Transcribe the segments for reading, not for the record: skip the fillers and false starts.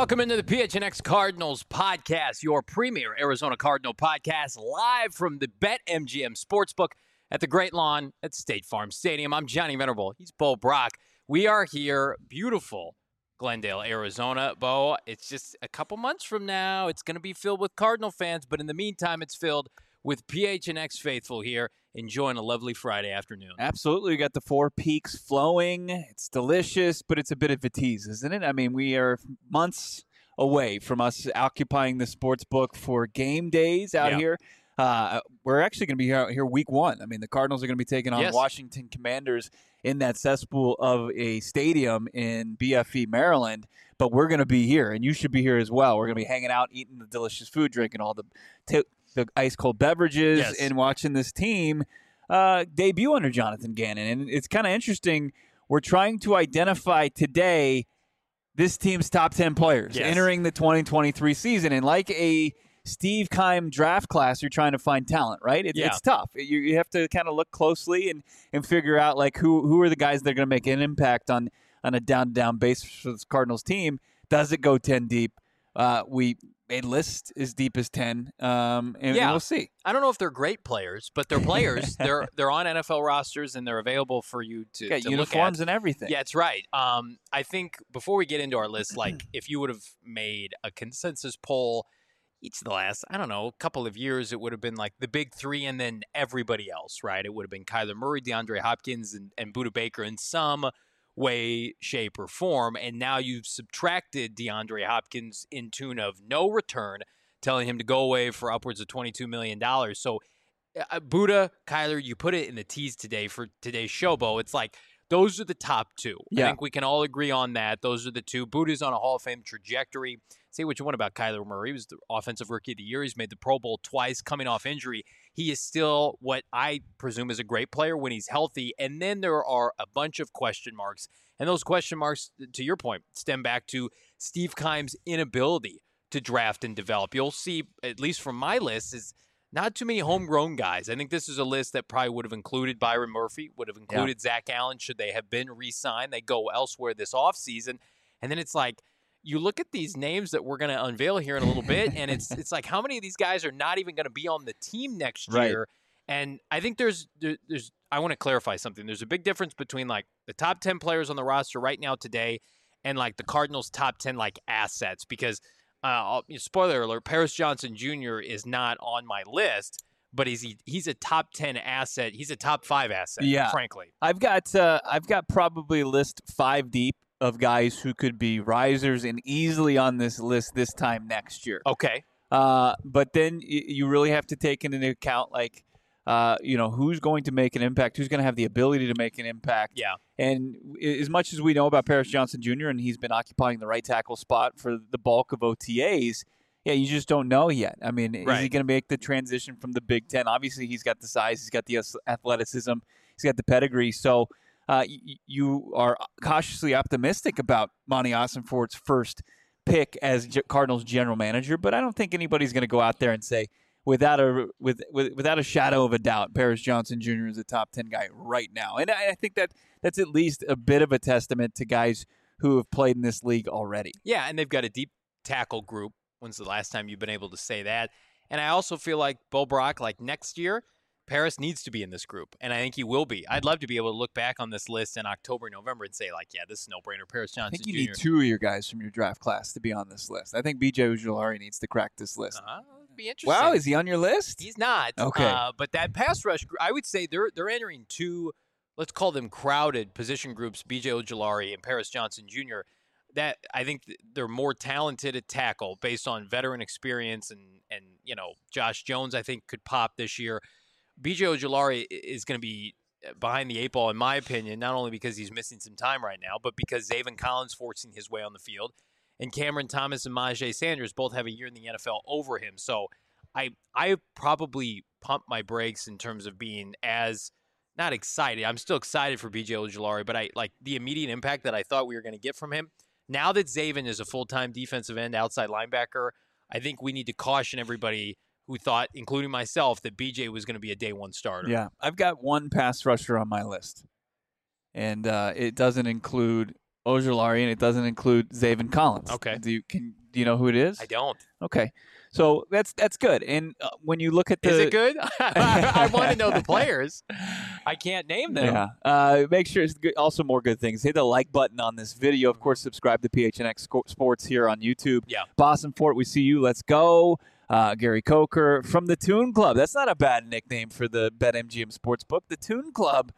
welcome into the PHNX Cardinals podcast, your premier Arizona Cardinal podcast, live from the BetMGM Sportsbook at the Great Lawn at State Farm Stadium. I'm Johnny Venerable. He's Bo Brock. We are here, beautiful Glendale, Arizona. Bo, it's just a couple months from now. It's going to be filled with Cardinal fans, but in the meantime, it's filled with PHNX faithful here enjoying a lovely Friday afternoon. Absolutely. We got the Four Peaks flowing. It's delicious, but it's a bit of a tease, isn't it? I mean, we are months away from us occupying the sports book for game days out here. We're actually going to be here week one. I mean, the Cardinals are going to be taking on Washington Commanders in that cesspool of a stadium in BFE, Maryland. But we're going to be here, and you should be here as well. We're going to be hanging out, eating the delicious food, drinking all the ice-cold beverages, and watching this team debut under Jonathan Gannon. And it's kind of interesting. We're trying to identify today this team's top 10 players entering the 2023 season. And like a Steve Keim draft class, you're trying to find talent, right? It's tough. You have to kind of look closely and figure out like who are the guys that are going to make an impact on a down-to-down basis for this Cardinals team. Does it go 10 deep? We made list as deep as 10, and we'll see. I don't know if they're great players, but they're players. they're on NFL rosters, and they're available for you to uniforms look at. And everything. Yeah, that's right. I think before we get into our list, like if you would have made a consensus poll each of the last, I don't know, couple of years, it would have been like the big three and then everybody else, right? It would have been Kyler Murray, DeAndre Hopkins, and Budda Baker in some way, shape, or form, and now you've subtracted DeAndre Hopkins in tune of no return, telling him to go away for upwards of $22 million. So Budda, Kyler, you put it in the tease today for today's show, Bo. It's like those are the top two. I think we can all agree on that. Those are the two. Budda's on a Hall of Fame trajectory. Say what you want about Kyler Murray. He was the Offensive Rookie of the Year. He's made the Pro Bowl twice, coming off injury. He is still what I presume is a great player when he's healthy. And then there are a bunch of question marks. And those question marks, to your point, stem back to Steve Keim's inability to draft and develop. You'll see, at least from my list, is not too many homegrown guys. I think this is a list that probably would have included Byron Murphy, would have included Zach Allen should they have been re-signed. They go elsewhere this offseason. And then it's like, you look at these names that we're going to unveil here in a little bit, and it's like how many of these guys are not even going to be on the team next year? And I think there's I want to clarify something. There's a big difference between like the top 10 players on the roster right now today and like the Cardinals' top 10 like assets. Because spoiler alert, Paris Johnson Jr. is not on my list, but he's a top 10 asset. He's a top 5 asset. Frankly, I've got probably a list 5 deep of guys who could be risers and easily on this list this time next year. Okay. But then you really have to take into account, like, who's going to make an impact, who's going to have the ability to make an impact. Yeah. And as much as we know about Paris Johnson Jr., and he's been occupying the right tackle spot for the bulk of OTAs, you just don't know yet. I mean, is he going to make the transition from the Big Ten? Obviously, he's got the size, he's got the athleticism, he's got the pedigree. So you are cautiously optimistic about Monty Ossenfort's first pick as Cardinals general manager, but I don't think anybody's going to go out there and say, without a shadow of a doubt, Paris Johnson Jr. is a top 10 guy right now. And I think that's at least a bit of a testament to guys who have played in this league already. Yeah, and they've got a deep tackle group. When's the last time you've been able to say that? And I also feel like Bo Brock, like next year, Paris needs to be in this group, and I think he will be. I'd love to be able to look back on this list in October, November, and say, like, yeah, this is no-brainer. Paris Johnson Jr. I think you need 2 of your guys from your draft class to be on this list. I think B.J. Ojulari needs to crack this list. It'd be interesting. Wow, is he on your list? He's not. Okay. But that pass rush, I would say they're entering 2, let's call them crowded position groups, B.J. Ojulari and Paris Johnson Jr., that I think they're more talented at tackle based on veteran experience, and Josh Jones, I think, could pop this year. B.J. Ojulari is going to be behind the 8 ball, in my opinion, not only because he's missing some time right now, but because Zaven Collins forcing his way on the field, and Cameron Thomas and Myjai Sanders both have a year in the NFL over him. So I probably pump my brakes in terms of being as not excited. I'm still excited for B.J. Ojulari, but I like the immediate impact that I thought we were going to get from him. Now that Zaven is a full-time defensive end outside linebacker, I think we need to caution everybody who thought, including myself, that BJ was going to be a day one starter. Yeah, I've got one pass rusher on my list, and it doesn't include Ojulari, and it doesn't include Zaven Collins. Okay. Do you know who it is? I don't. Okay. So that's good. And when you look at the... Is it good? I want to know the players. I can't name them. Yeah. Make sure it's good. Also, more good things. Hit the like button on this video. Of course, subscribe to PHNX Sports here on YouTube. Yeah. Boston Fort, we see you. Let's go. Gary Coker from the Toon Club. That's not a bad nickname for the BetMGM Sportsbook. The Toon Club.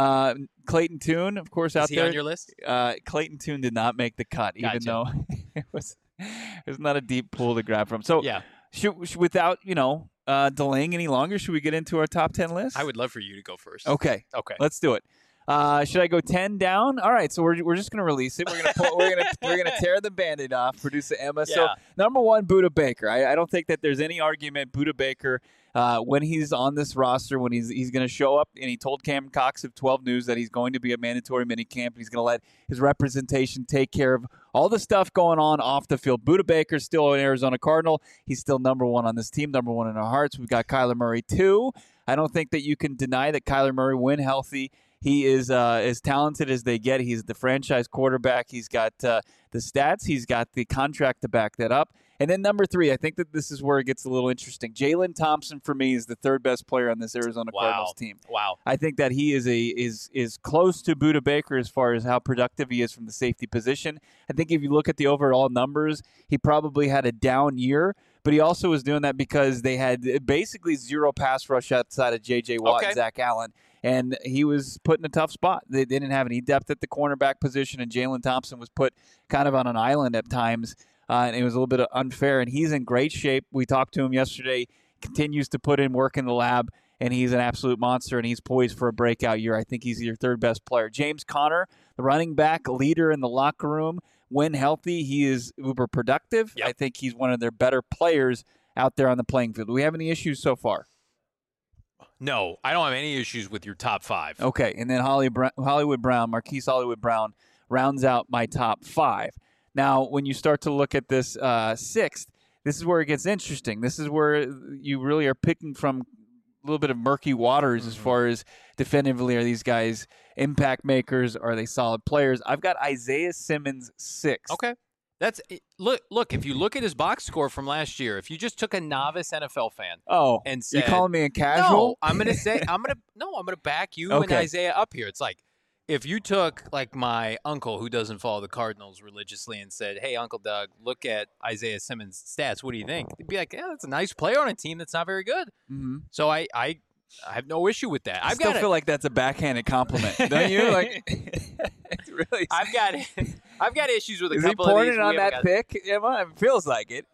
Clayton Toon, of course, out Is he there. on your list? Clayton Toon did not make the cut, even Gotcha. though it was not a deep pool to grab from. So, Yeah. should without delaying any longer, should we get into our top 10 list? I would love for you to go first. Okay, Okay. let's do it. Should I go 10 down? All right, so we're just gonna release it. We're gonna tear the Band-Aid off. Producer Emma. So Yeah. number 1, Budda Baker. I don't think that there's any argument. Budda Baker, when he's on this roster, when he's going to show up, and he told Cameron Cox of 12 News that he's going to be a mandatory minicamp, and he's going to let his representation take care of all the stuff going on off the field. Budda Baker's still an Arizona Cardinal. He's still number 1 on this team, number 1 in our hearts. We've got Kyler Murray, 2. I don't think that you can deny that Kyler Murray, when healthy, he is as talented as they get. He's the franchise quarterback. He's got the stats. He's got the contract to back that up. And then number 3, I think that this is where it gets a little interesting. Jalen Thompson, for me, is the 3rd best player on this Arizona Cardinals team. Wow. I think that he is close to Budda Baker as far as how productive he is from the safety position. I think if you look at the overall numbers, he probably had a down year, but he also was doing that because they had basically 0 pass rush outside of J.J. Watt and Zach Allen. And he was put in a tough spot. They didn't have any depth at the cornerback position, and Jalen Thompson was put kind of on an island at times, and it was a little bit unfair. And he's in great shape. We talked to him yesterday, continues to put in work in the lab, and he's an absolute monster, and he's poised for a breakout year. I think he's your 3rd best player. James Conner, the running back, leader in the locker room. When healthy, he is uber productive. Yep. I think he's one of their better players out there on the playing field. Do we have any issues so far? No, I don't have any issues with your top 5. Okay, and then Hollywood Brown, Marquise Hollywood Brown, rounds out my top 5. Now, when you start to look at this 6th, this is where it gets interesting. This is where you really are picking from a little bit of murky waters as far as definitively, are these guys impact makers? Are they solid players? I've got Isaiah Simmons 6th. Okay. That's look. If you look at his box score from last year, if you just took a novice NFL fan, and said, you calling me a casual? No, I'm gonna back you and Okay. Isaiah up here. It's like if you took like my uncle who doesn't follow the Cardinals religiously and said, "Hey, Uncle Doug, look at Isaiah Simmons' stats. What do you think?" He'd be like, "Yeah, that's a nice player on a team that's not very good." Mm-hmm. So I have no issue with that. I still feel like that's a backhanded compliment, don't you? Like, it's really. I've got issues with a Is he couple of pouring these. it on that pick, Emma? It feels like it.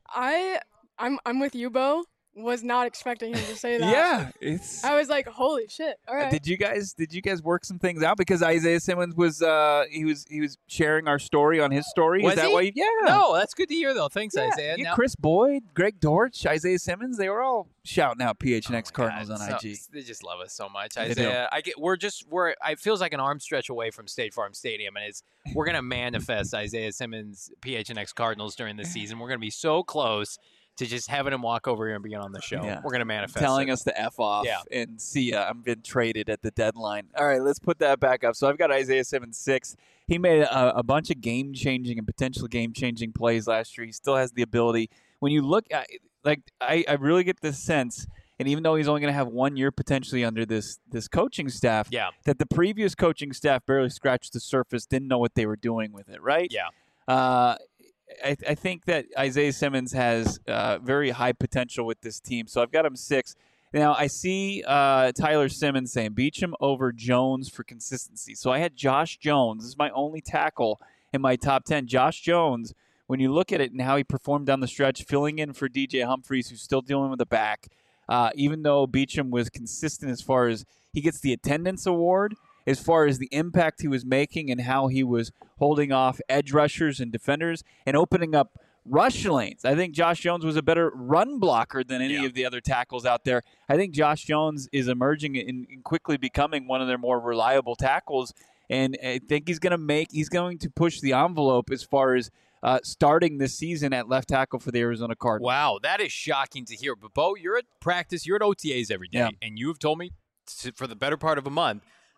I'm with you, Bo. Was not expecting him to say that. Yeah, it's. I was like, holy shit! All right. Did you guys work some things out? Because Isaiah Simmons was he was sharing our story on his story. Was Is that he? why? Yeah. No, that's good to hear though. Thanks, Isaiah. Yeah, Now- Chris Boyd, Greg Dortch, Isaiah Simmons, they were all shouting out Oh PHNX my Cardinals God, on so- IG. They just love us so much, They Isaiah. It feels like an arm stretch away from State Farm Stadium, and we're gonna manifest Isaiah Simmons PHNX Cardinals during the season. We're gonna be so close to just having him walk over here and be on the show. Yeah. We're gonna manifest. Telling it. us to F off Yeah. and see ya. I'm been traded at the deadline. All right, let's put that back up. So I've got Isaiah Simmons 6. He made a bunch of game-changing and potential game-changing plays last year. He still has the ability. When you look at, I really get this sense, and even though he's only going to have 1 year potentially under this coaching staff, Yeah. that the previous coaching staff barely scratched the surface, didn't know what they were doing with it, right? Yeah. I think that Isaiah Simmons has very high potential with this team. So I've got him 6. Now, I see Tyler Simmons saying, Beachum over Jones for consistency. So I had Josh Jones. This is my only tackle in my top 10. Josh Jones, when you look at it and how he performed down the stretch, filling in for DJ Humphries, who's still dealing with the back, even though Beachum was consistent as far as he gets the attendance award, as far as the impact he was making and how he was holding off edge rushers and defenders and opening up rush lanes. I think Josh Jones was a better run blocker than any of the other tackles out there. I think Josh Jones is emerging and quickly becoming one of their more reliable tackles, and I think he's going to push the envelope as far as starting this season at left tackle for the Arizona Cardinals. Wow, that is shocking to hear. But Bo, you're at practice, you're at OTAs every day, Yeah. and you have told me for the better part of a month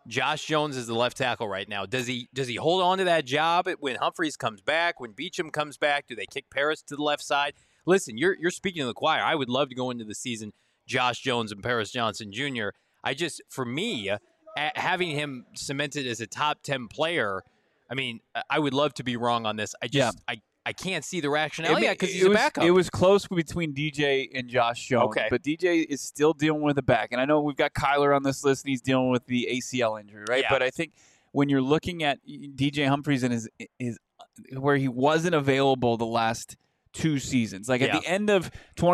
Josh Jones is the left tackle right now. Does he hold on to that job when Humphreys comes back, when Beachum comes back? Do they kick Paris to the left side? Listen, you're speaking to the choir. I would love to go into the season Josh Jones and Paris Johnson Jr. For me, having him cemented as a top 10 player, I mean, I would love to be wrong on this. I can't see the rationale yet because he's a backup. It was close between DJ and Josh Jones, but DJ is still dealing with a back. And I know we've got Kyler on this list, and he's dealing with the ACL injury, right? Yeah. But I think when you're looking at DJ Humphreys and his where he wasn't available the last 2 seasons, like at the end of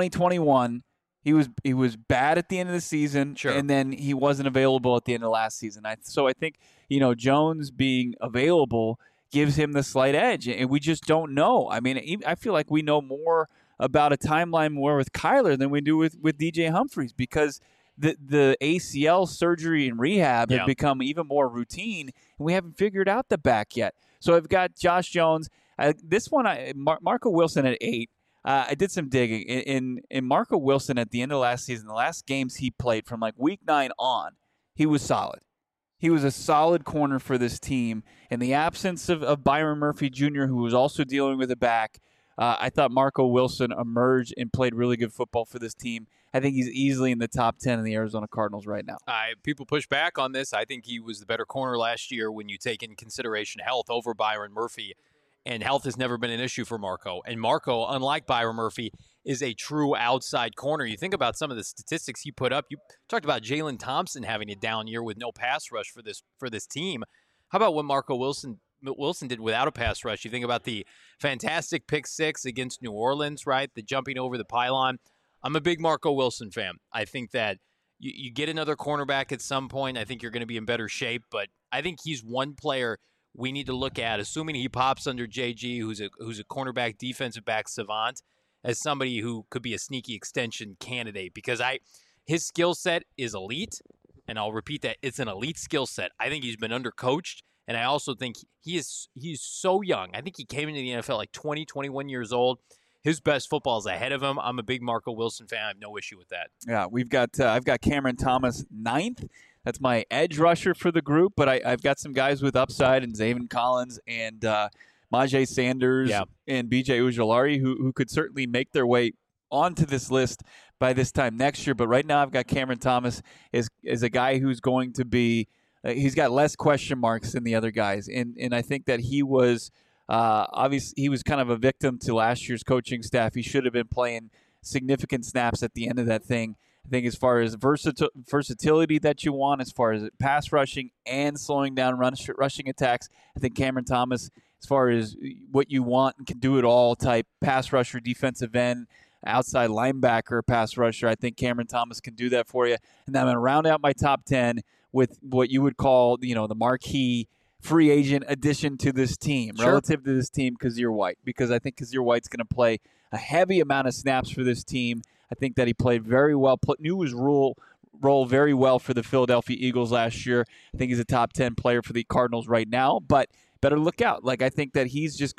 2021, he was bad at the end of the season, and then he wasn't available at the end of last season. So I think Jones being available gives him the slight edge, and we just don't know. I mean, I feel like we know more about a timeline more with Kyler than we do with DJ Humphreys, because the ACL surgery and rehab have become even more routine, and we haven't figured out the back yet. So I've got Josh Jones. This one, Marco Wilson at 8. I did some digging. In Marco Wilson at the end of last season, the last games he played from like week 9 on, he was solid. He was a solid corner for this team. In the absence of Byron Murphy Jr., who was also dealing with a back, I thought Marco Wilson emerged and played really good football for this team. I think he's easily in the top 10 of the Arizona Cardinals right now. People push back on this. I think he was the better corner last year when you take in consideration health over Byron Murphy. And health has never been an issue for Marco. And Marco, unlike Byron Murphy, is a true outside corner. You think about some of the statistics he put up. You talked about Jalen Thompson having a down year with no pass rush for this team. How about what Marco Wilson did without a pass rush? You think about the fantastic pick 6 against New Orleans, right? The jumping over the pylon. I'm a big Marco Wilson fan. I think that you get another cornerback at some point. I think you're going to be in better shape. But I think he's one player we need to look at, assuming he pops under JG, who's a cornerback, defensive back savant, as somebody who could be a sneaky extension candidate, because his skill set is elite, and I'll repeat that, it's an elite skill set. I think he's been undercoached, and I also think he's so young. I think he came into the NFL like 20, 21 years old. His best football is ahead of him. I'm a big Marco Wilson fan. I have no issue with that. Yeah, I've got Cameron Thomas 9th. That's my edge rusher for the group, but I've got some guys with upside, and Zaven Collins and Majay Sanders and BJ Ujulari who could certainly make their way onto this list by this time next year. But right now I've got Cameron Thomas as a guy who's going to be he's got less question marks than the other guys. And I think that he was obviously he was kind of a victim to last year's coaching staff. He should have been playing significant snaps at the end of that thing. I think as far as versatility that you want, as far as pass rushing and slowing down rushing attacks, I think Cameron Thomas, as far as what you want and can do it all type pass rusher, defensive end, outside linebacker, pass rusher, I think Cameron Thomas can do that for you. And then I'm going to round out my top 10 with what you would call, the marquee free agent addition to this team, relative to this team, Kyzir White, because I think Kyzir White's going to play a heavy amount of snaps for this team. I think that he played very well, knew his role very well for the Philadelphia Eagles last year. I think he's a top 10 player for the Cardinals right now, but better look out. Like, I think that he's just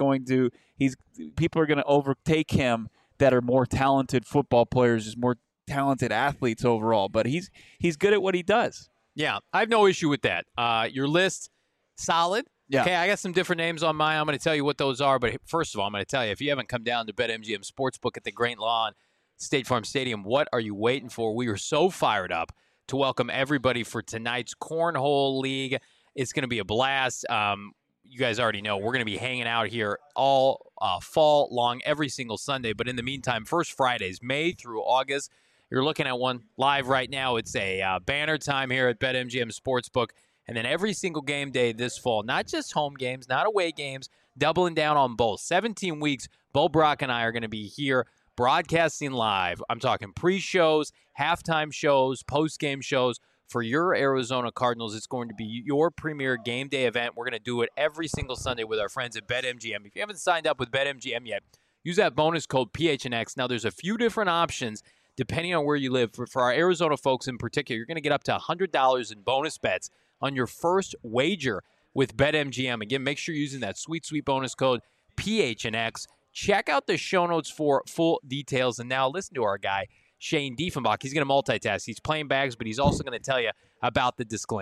people are going to overtake him that are more talented football players, just more talented athletes overall, but he's good at what he does. Yeah, I have no issue with that. Your list, solid. Yeah. Okay, I got some different names on mine. I'm going to tell you what those are, but first of all, I'm going to tell you, if you haven't come down to BetMGM Sportsbook at the Great Lawn State Farm Stadium, what are you waiting for? We are so fired up to welcome everybody for tonight's Cornhole League. It's going to be a blast. You guys already know we're going to be hanging out here all fall long, every single Sunday. But in the meantime, first Fridays, May through August, you're looking at one live right now. It's a banner time here at BetMGM Sportsbook. And then every single game day this fall, not just home games, not away games, doubling down on both. 17 weeks, Bo Brock and I are going to be here broadcasting live. I'm talking pre-shows, halftime shows, post-game shows for your Arizona Cardinals. It's going to be your premier game day event. We're going to do it every single Sunday with our friends at BetMGM. If you haven't signed up with BetMGM yet, use that bonus code PHNX. Now, there's a few different options depending on where you live. For our Arizona folks in particular, you're going to get up to $100 in bonus bets on your first wager with BetMGM. Again, make sure you're using that sweet, sweet bonus code PHNX. Check out the show notes for full details. And now listen to our guy, Shane Diefenbach. He's going to multitask. He's playing bags, but he's also going to tell you about the disclaimer.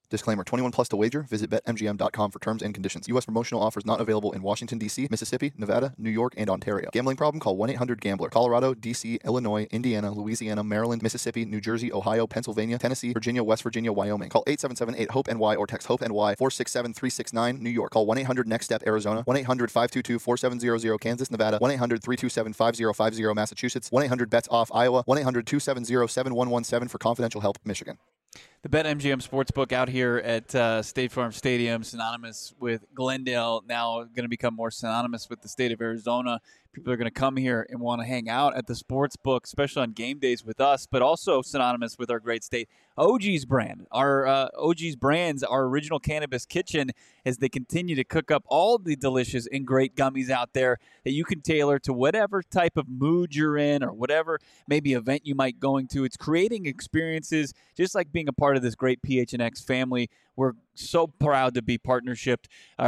Disclaimer, 21 plus to wager. Visit BetMGM.com for terms and conditions. U.S. promotional offers not available in Washington, D.C., Mississippi, Nevada, New York, and Ontario. Gambling problem? Call 1-800-GAMBLER. Colorado, D.C., Illinois, Indiana, Louisiana, Maryland, Mississippi, New Jersey, Ohio, Pennsylvania, Tennessee, Virginia, West Virginia, Wyoming. Call 877-8-HOPE-NY or text HOPE-NY 467-369, New York. Call 1-800-NEXT-STEP, Arizona. 1-800-522-4700, Kansas, Nevada. 1-800-327-5050, Massachusetts. 1-800-BETS-OFF, Iowa. 1-800-270-7117 for confidential help, Michigan. The BetMGM Sportsbook out here at State Farm Stadium, synonymous with Glendale, now going to become more synonymous with the state of Arizona. People are going to come here and want to hang out at the Sportsbook, especially on game days with us, but also synonymous with our great state. OG's brand, our OG's brands, our original cannabis kitchen, as they continue to cook up all the delicious and great gummies out there that you can tailor to whatever type of mood you're in or whatever maybe event you might going to. It's creating experiences just like being a part of this great PHNX family. We're so proud to be partnered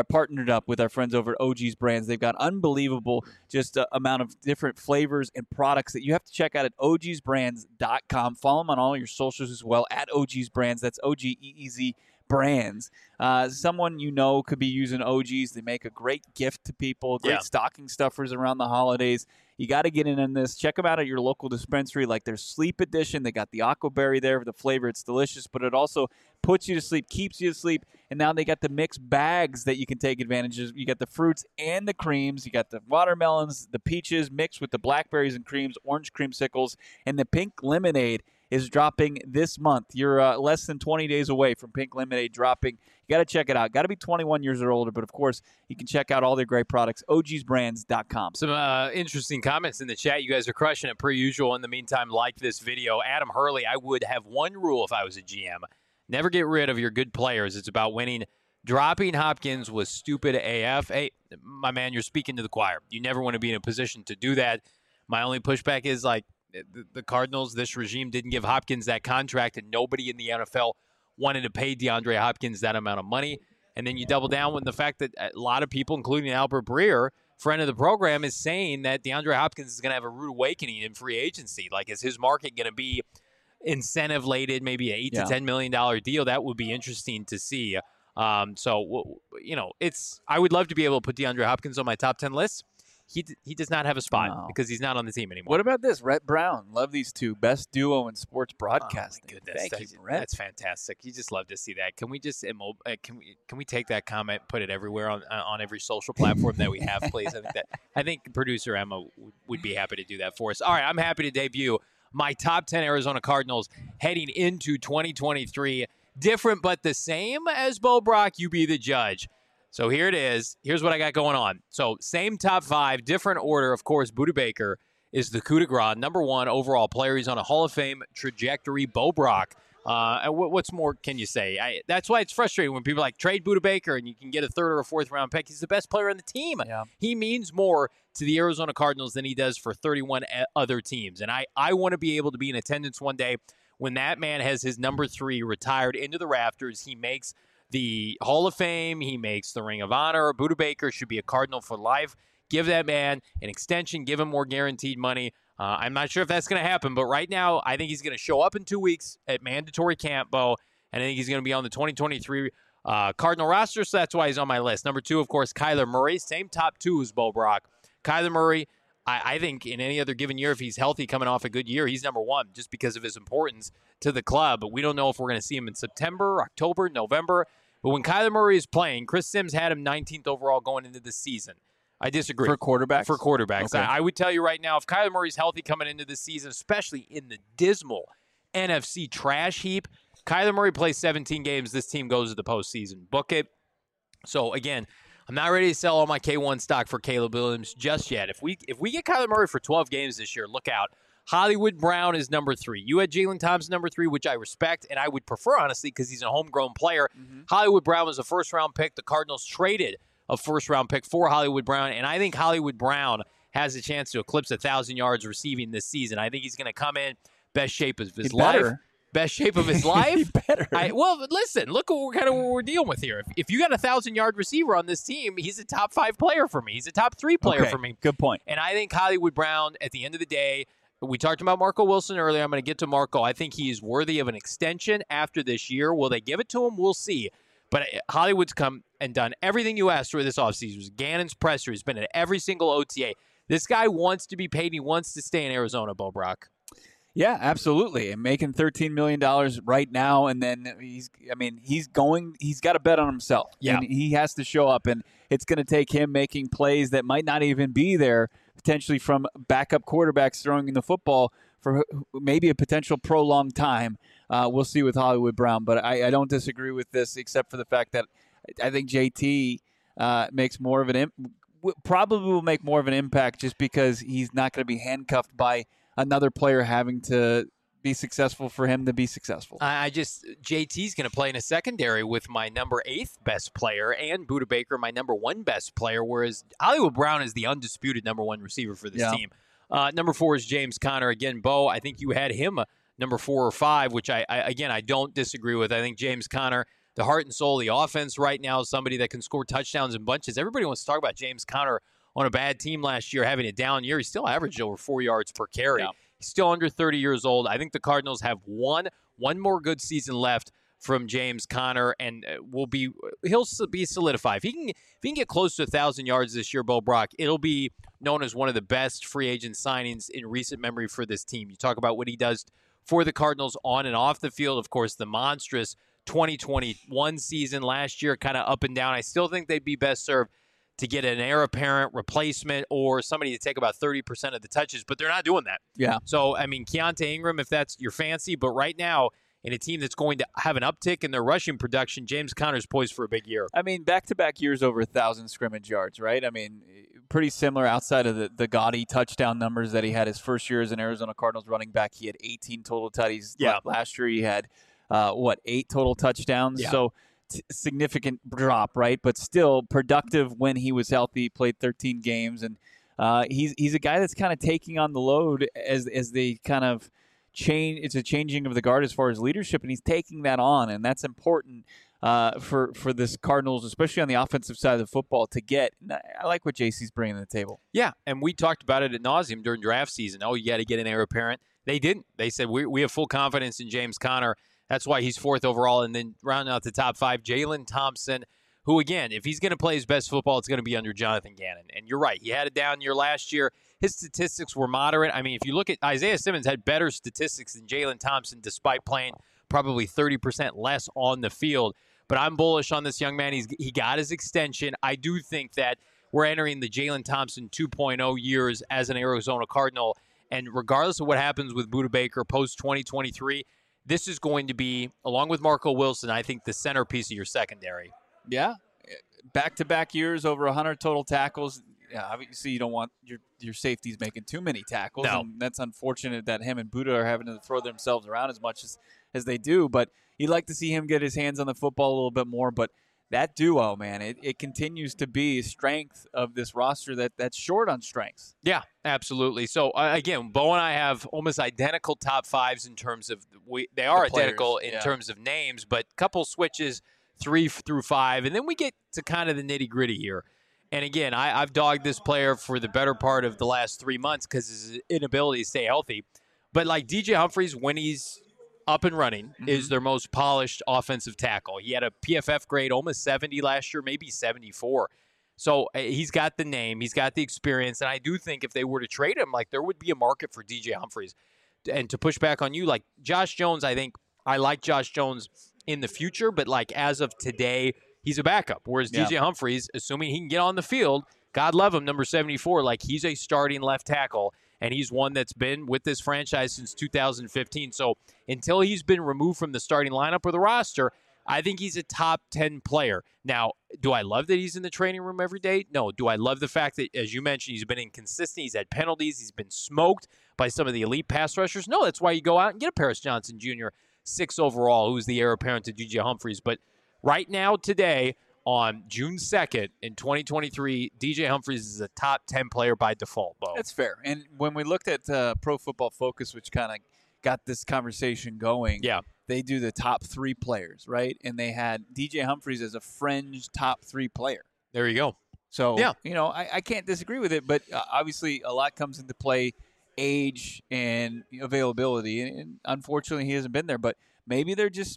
up with our friends over at OG's Brands. They've got unbelievable amount of different flavors and products that you have to check out at ogsbrands.com. Follow them on all your socials as well, at OG's Brands. That's OGEEZ Brands. Someone you know could be using OG's. They make a great gift to people, great stocking stuffers around the holidays. You got to get in on this. Check them out at your local dispensary, like their Sleep Edition. They got the Aquaberry there for the flavor. It's delicious, but it also puts you to sleep, keeps you to sleep, and now they got the mixed bags that you can take advantage of. You got the fruits and the creams. You got the watermelons, the peaches mixed with the blackberries and creams, orange creamsicles, and the pink lemonade is dropping this month. You're less than 20 days away from Pink Lemonade dropping. You got to check it out. Got to be 21 years or older, but of course, you can check out all their great products, ogsbrands.com. Some interesting comments in the chat. You guys are crushing it per usual. In the meantime, like this video. Adam Hurley, I would have one rule if I was a GM. Never get rid of your good players. It's about winning. Dropping Hopkins was stupid AF. Hey, my man, you're speaking to the choir. You never want to be in a position to do that. My only pushback is, like, the Cardinals, this regime didn't give Hopkins that contract, and nobody in the NFL wanted to pay DeAndre Hopkins that amount of money. And then you double down with the fact that a lot of people, including Albert Breer, friend of the program, is saying that DeAndre Hopkins is going to have a rude awakening in free agency. Like, is his market going to be incentive-laden, maybe an $8 to $10 million deal? That would be interesting to see. So, you know, I would love to be able to put DeAndre Hopkins on my top 10 list. He does not have a spot because he's not on the team anymore. What about this? Rhett Brown. Love these two. Best duo in sports broadcasting. Oh, my goodness. Thank you, Rhett. That's fantastic. You just love to see that. Can we just can we take that comment, put it everywhere on every social platform that we have, please? I think producer Emma would be happy to do that for us. All right, I'm happy to debut my top 10 Arizona Cardinals heading into 2023. Different but the same as Bo Brock. You be the judge. So here it is. Here's what I got going on. So same top 5, different order. Of course, Budda Baker is the coup de grace, number 1 overall player. He's on a Hall of Fame trajectory. Bo Brock. What's more can you say? That's why it's frustrating when people like trade Budda Baker and you can get a 3rd or a 4th round pick. He's the best player on the team. Yeah. He means more to the Arizona Cardinals than he does for 31 other teams. And I want to be able to be in attendance one day when that man has his number 3 retired into the rafters. He makes the Hall of Fame. He makes the Ring of Honor. Budda Baker should be a Cardinal for life. Give that man an extension. Give him more guaranteed money. I'm not sure if that's going to happen, but right now I think he's going to show up in 2 weeks at mandatory camp, Bo, and I think he's going to be on the 2023 Cardinal roster, so that's why he's on my list. Number 2, of course, Kyler Murray. Same top 2 as Bo Brock. Kyler Murray, I think in any other given year, if he's healthy coming off a good year, he's number 1 just because of his importance to the club. But we don't know if we're going to see him in September, October, November. But when Kyler Murray is playing, Chris Sims had him 19th overall going into the season. I disagree. For quarterbacks? For quarterbacks. Okay. I would tell you right now, if Kyler Murray's healthy coming into the season, especially in the dismal NFC trash heap, Kyler Murray plays 17 games, this team goes to the postseason. Book it. So, again, I'm not ready to sell all my K1 stock for Caleb Williams just yet. If we get Kyler Murray for 12 games this year, look out. Hollywood Brown is number 3. You had Jalen Thompson number 3, which I respect, and I would prefer, honestly, because he's a homegrown player. Mm-hmm. Hollywood Brown was a first-round pick. The Cardinals traded a first-round pick for Hollywood Brown, and I think Hollywood Brown has a chance to eclipse 1,000 yards receiving this season. I think he's going to come in best shape of his life. Best shape of his life. He better. Well, listen, look at what we're dealing with here. If you got a 1,000-yard receiver on this team, he's a top 5 player for me. He's a top 3 player for me. Good point. And I think Hollywood Brown, at the end of the day, we talked about Marco Wilson earlier. I'm going to get to Marco. I think he's worthy of an extension after this year. Will they give it to him? We'll see. But Hollywood's come and done everything you asked for this offseason. It was Gannon's presser. He's been at every single OTA. This guy wants to be paid. He wants to stay in Arizona, Bo Brock. Yeah, absolutely. And making $13 million right now, and then he's got to bet on himself. Yeah. And he has to show up, and it's going to take him making plays that might not even be there, potentially from backup quarterbacks throwing the football for maybe a potential prolonged time. We'll see with Hollywood Brown, but I don't disagree with this, except for the fact that I think JT makes more of probably will make more of an impact just because he's not going to be handcuffed by another player having to be successful for him to be successful. JT's going to play in a secondary with my number 8th best player and Budda Baker, my number 1 best player, whereas Hollywood Brown is the undisputed number 1 receiver for this team. Number 4 is James Conner. Again, Bo, I think you had him number 4 or 5, which I don't disagree with. I think James Conner, the heart and soul of the offense right now, is somebody that can score touchdowns in bunches. Everybody wants to talk about James Conner on a bad team last year, having a down year. He still averaged over 4 yards per carry. Yeah. He's still under 30 years old. I think the Cardinals have one more good season left from James Conner, and he'll be solidified. If he can get close to 1,000 yards this year, Bo Brock, it'll be known as one of the best free agent signings in recent memory for this team. You talk about what he does for the Cardinals on and off the field. Of course, the monstrous 2021 season last year, kind of up and down. I still think they'd be best served to get an heir apparent replacement or somebody to take about 30% of the touches, but they're not doing that. Yeah. So, Keontae Ingram, if that's your fancy, but right now, in a team that's going to have an uptick in their rushing production, James Conner's poised for a big year. Back-to-back years over 1,000 scrimmage yards, right? Pretty similar outside of the gaudy touchdown numbers that he had his first year as an Arizona Cardinals running back. He had 18 total tutties. Yeah. Last year he had, 8 total touchdowns? Yeah. So significant drop, right? But still productive when he was healthy, played 13 games. And he's a guy that's kind of taking on the load as they kind of change. It's a changing of the guard as far as leadership, and he's taking that on. And that's important for this Cardinals, especially on the offensive side of the football, to get. I like what JC's bringing to the table. Yeah, and we talked about it ad nauseum during draft season. Oh, you got to get an heir apparent. They didn't. They said, we have full confidence in James Conner. That's why he's 4th overall. And then rounding out the top 5, Jalen Thompson, who, again, if he's going to play his best football, it's going to be under Jonathan Gannon. And you're right. He had a down year last year. His statistics were moderate. If you look at Isaiah Simmons had better statistics than Jalen Thompson despite playing probably 30% less on the field. But I'm bullish on this young man. He got his extension. I do think that we're entering the Jalen Thompson 2.0 years as an Arizona Cardinal. And regardless of what happens with Budda Baker post-2023, this is going to be, along with Marco Wilson, I think the centerpiece of your secondary. Yeah. Back-to-back years, over 100 total tackles. Yeah, obviously you don't want your safeties making too many tackles. No. And that's unfortunate that him and Budda are having to throw themselves around as much as they do. But you'd like to see him get his hands on the football a little bit more. But that duo, man, it continues to be a strength of this roster that's short on strengths. Yeah, absolutely. So, again, Bo and I have almost identical top 5s in terms of they are identical in terms of names, but couple switches 3 through 5, and then we get to kind of the nitty-gritty here. And, again, I've dogged this player for the better part of the last 3 months because his inability to stay healthy. But, like DJ Humphries, when he's up and running, is their most polished offensive tackle. He had a PFF grade almost 70 last year, maybe 74. So he's got the name, he's got the experience, and I do think if they were to trade him, like there would be a market for DJ Humphries. And to push back on you, like Josh Jones, I think I like Josh Jones in the future, but like as of today, he's a backup. Whereas DJ Humphries, assuming he can get on the field, God love him, number 74, like he's a starting left tackle. And he's one that's been with this franchise since 2015. So until he's been removed from the starting lineup or the roster, I think he's a top 10 player. Now, do I love that he's in the training room every day? No. Do I love the fact that, as you mentioned, he's been inconsistent, he's had penalties, he's been smoked by some of the elite pass rushers? No, that's why you go out and get a Paris Johnson Jr., 6 overall, who's the heir apparent to DJ Humphries. But right now, today, on June 2nd in 2023, DJ Humphries is a top 10 player by default, Bo. That's fair. And when we looked at Pro Football Focus, which kind of got this conversation going, they do the top 3 players, right? And they had DJ Humphries as a fringe top 3 player. There you go. So, I can't disagree with it, but obviously a lot comes into play age and availability. And unfortunately, he hasn't been there. But maybe they're just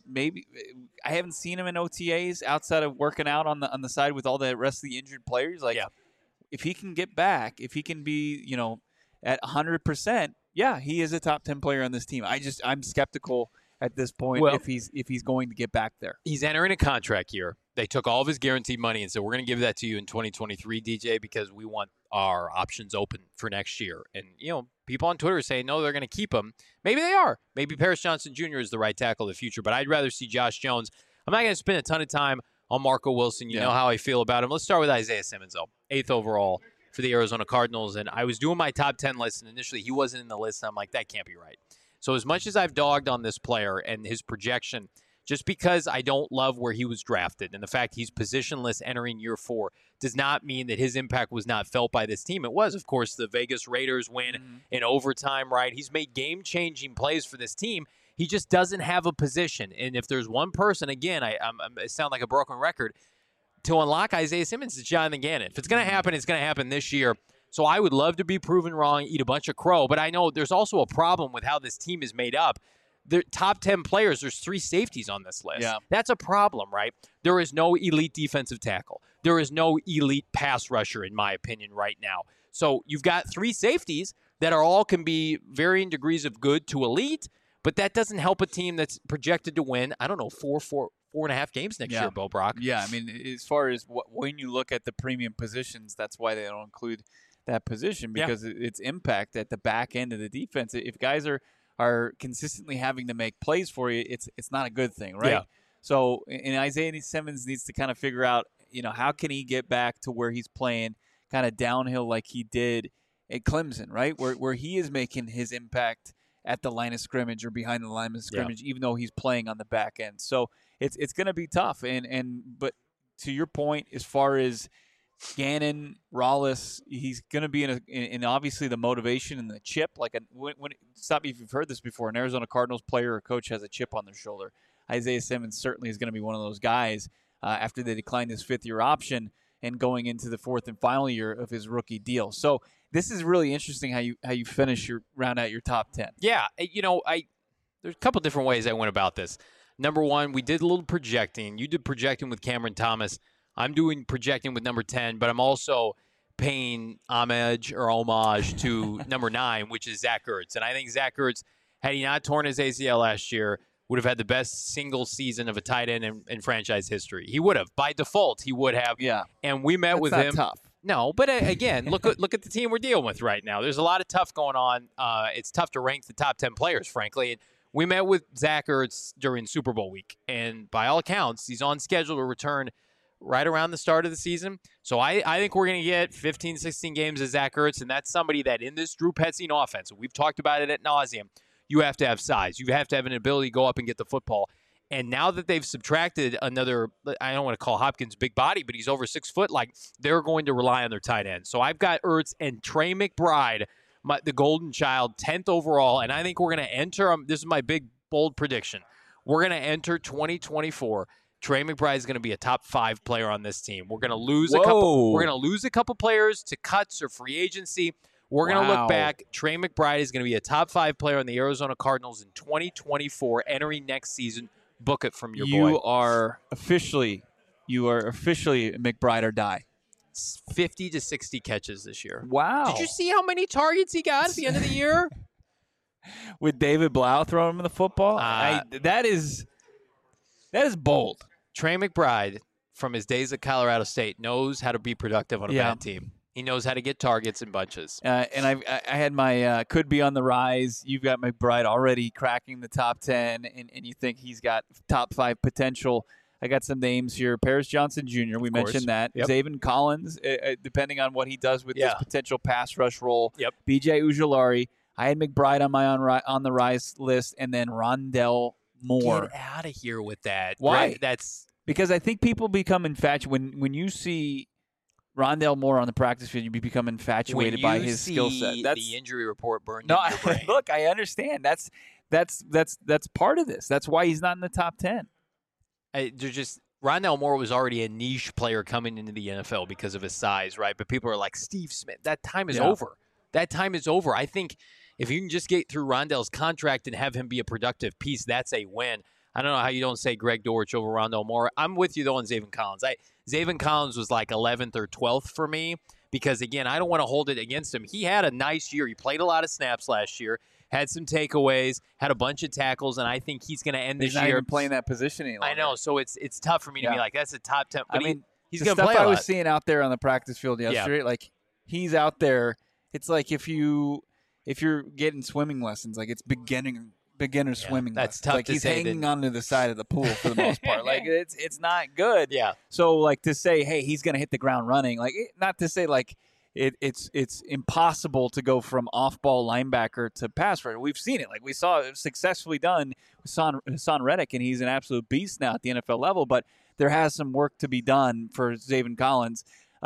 I haven't seen him in OTAs outside of working out on the side with all the rest of the injured players. Like, if he can get back, if he can be, at 100%, yeah, he is a top 10 player on this team. I'm skeptical at this point if he's going to get back there. He's entering a contract year. They took all of his guaranteed money and said, we're going to give that to you in 2023, DJ, because we want our options open for next year. And, people on Twitter are saying, no, they're going to keep him. Maybe they are. Maybe Paris Johnson Jr. is the right tackle of the future, but I'd rather see Josh Jones. I'm not going to spend a ton of time on Marco Wilson. You know how I feel about him. Let's start with Isaiah Simmons, though. 8th overall for the Arizona Cardinals. And I was doing my top 10 list, and initially he wasn't in the list. And I'm like, that can't be right. So as much as I've dogged on this player and his projection, just because I don't love where he was drafted and the fact he's positionless entering year 4 does not mean that his impact was not felt by this team. It was, of course, the Vegas Raiders win in overtime, right? He's made game-changing plays for this team. He just doesn't have a position. And if there's one person, again, I sound like a broken record, to unlock Isaiah Simmons, it's Jonathan Gannon. If it's going to happen, it's going to happen this year. So I would love to be proven wrong, eat a bunch of crow, but I know there's also a problem with how this team is made up. The top 10 players, there's 3 safeties on this list. Yeah. That's a problem, right? There is no elite defensive tackle. There is no elite pass rusher, in my opinion, right now. So you've got 3 safeties that can be varying degrees of good to elite, but that doesn't help a team that's projected to win, I don't know, 4.5 games next year, Bo Brock. Yeah, I mean, as far as when you look at the premium positions, that's why they don't include that position, because it's impact at the back end of the defense. If guys are consistently having to make plays for you, it's not a good thing, right? Yeah. So, and Isaiah Simmons needs to kind of figure out, how can he get back to where he's playing kind of downhill like he did at Clemson, right? Where he is making his impact at the line of scrimmage or behind the line of scrimmage, even though he's playing on the back end. So it's going to be tough. But to your point, as far as Gannon, Rollis, he's going to be in obviously the motivation and the chip. Like stop me if you've heard this before. An Arizona Cardinals player or coach has a chip on their shoulder. Isaiah Simmons certainly is going to be one of those guys after they declined his 5th-year option and going into the 4th and final year of his rookie deal. So this is really interesting how you finish your round out your top 10. Yeah, there's a couple different ways I went about this. Number one, we did a little projecting. You did projecting with Cameron Thomas. I'm doing projecting with number 10, but I'm also paying homage to number 9, which is Zach Ertz. And I think Zach Ertz, had he not torn his ACL last year, would have had the best single season of a tight end in franchise history. He would have. By default, he would have. Yeah. And we met with him. Tough. No, but again, look at the team we're dealing with right now. There's a lot of tough going on. It's tough to rank the top 10 players, frankly. And we met with Zach Ertz during Super Bowl week. And by all accounts, he's on schedule to return right around the start of the season. So I think we're going to get 15, 16 games of Zach Ertz, and that's somebody that in this Drew Petzing offense, we've talked about it ad nauseum, you have to have size. You have to have an ability to go up and get the football. And now that they've subtracted another, I don't want to call Hopkins big body, but he's over 6 foot, like they're going to rely on their tight end. So I've got Ertz and Trey McBride, the golden child, 10th overall, and I think we're going to enter, this is my big, bold prediction, we're going to enter 2024. Trey McBride is going to be a top 5 player on this team. We're going to lose a couple. We're going to lose a couple players to cuts or free agency. We're going to look back. Trey McBride is going to be a top 5 player on the Arizona Cardinals in 2024, entering next season. Book it from your boy. You are officially McBride or die. 50 to 60 catches this year. Wow! Did you see how many targets he got at the end of the year? With David Blau throwing him the football, that is bold. Trey McBride, from his days at Colorado State, knows how to be productive on a bad team. He knows how to get targets in bunches. And I had my could be on the rise. You've got McBride already cracking the top 10, and you think he's got top 5 potential. I got some names here. Paris Johnson Jr., we mentioned that. Yep. Zaven Collins, depending on what he does with this potential pass rush role. Yep. B.J. Ujulari. I had McBride on my on the rise list, and then Rondell Moore. Get out of here with that. Why? Right? That's because I think people become infatuated when you see Rondell Moore on the practice field. You become infatuated by his skill set. That's the injury report burned in your brain. Look, I understand. That's part of this. That's why he's not in the top 10. Rondell Moore was already a niche player coming into the NFL because of his size, right? But people are like, Steve Smith, that time is over. That time is over. I think if you can just get through Rondell's contract and have him be a productive piece, that's a win. I don't know how you don't say Greg Dortch over Rondell Moore. I'm with you, though, on Zaven Collins. Zaven Collins was like 11th or 12th for me because, again, I don't want to hold it against him. He had a nice year. He played a lot of snaps last year, had some takeaways, had a bunch of tackles, and I think he's going to end this He's not year even playing that position any longer. I know, so it's tough for me to be like, that's a top 10. But he's the going to stuff play a I was lot. seeing out there on the practice field yesterday, like he's out there. It's like if you're getting swimming lessons, like it's beginner swimming. That's lessons. tough Like to he's say hanging that- onto the side of the pool for the most part. Like it's not good. Yeah. So like to say, hey, he's going to hit the ground running. Like not to say like it's impossible to go from off-ball linebacker to pass rusher. We've seen it. Like we saw it successfully done with Hassan Reddick, and he's an absolute beast now at the NFL level. But there has some work to be done for Zaven Collins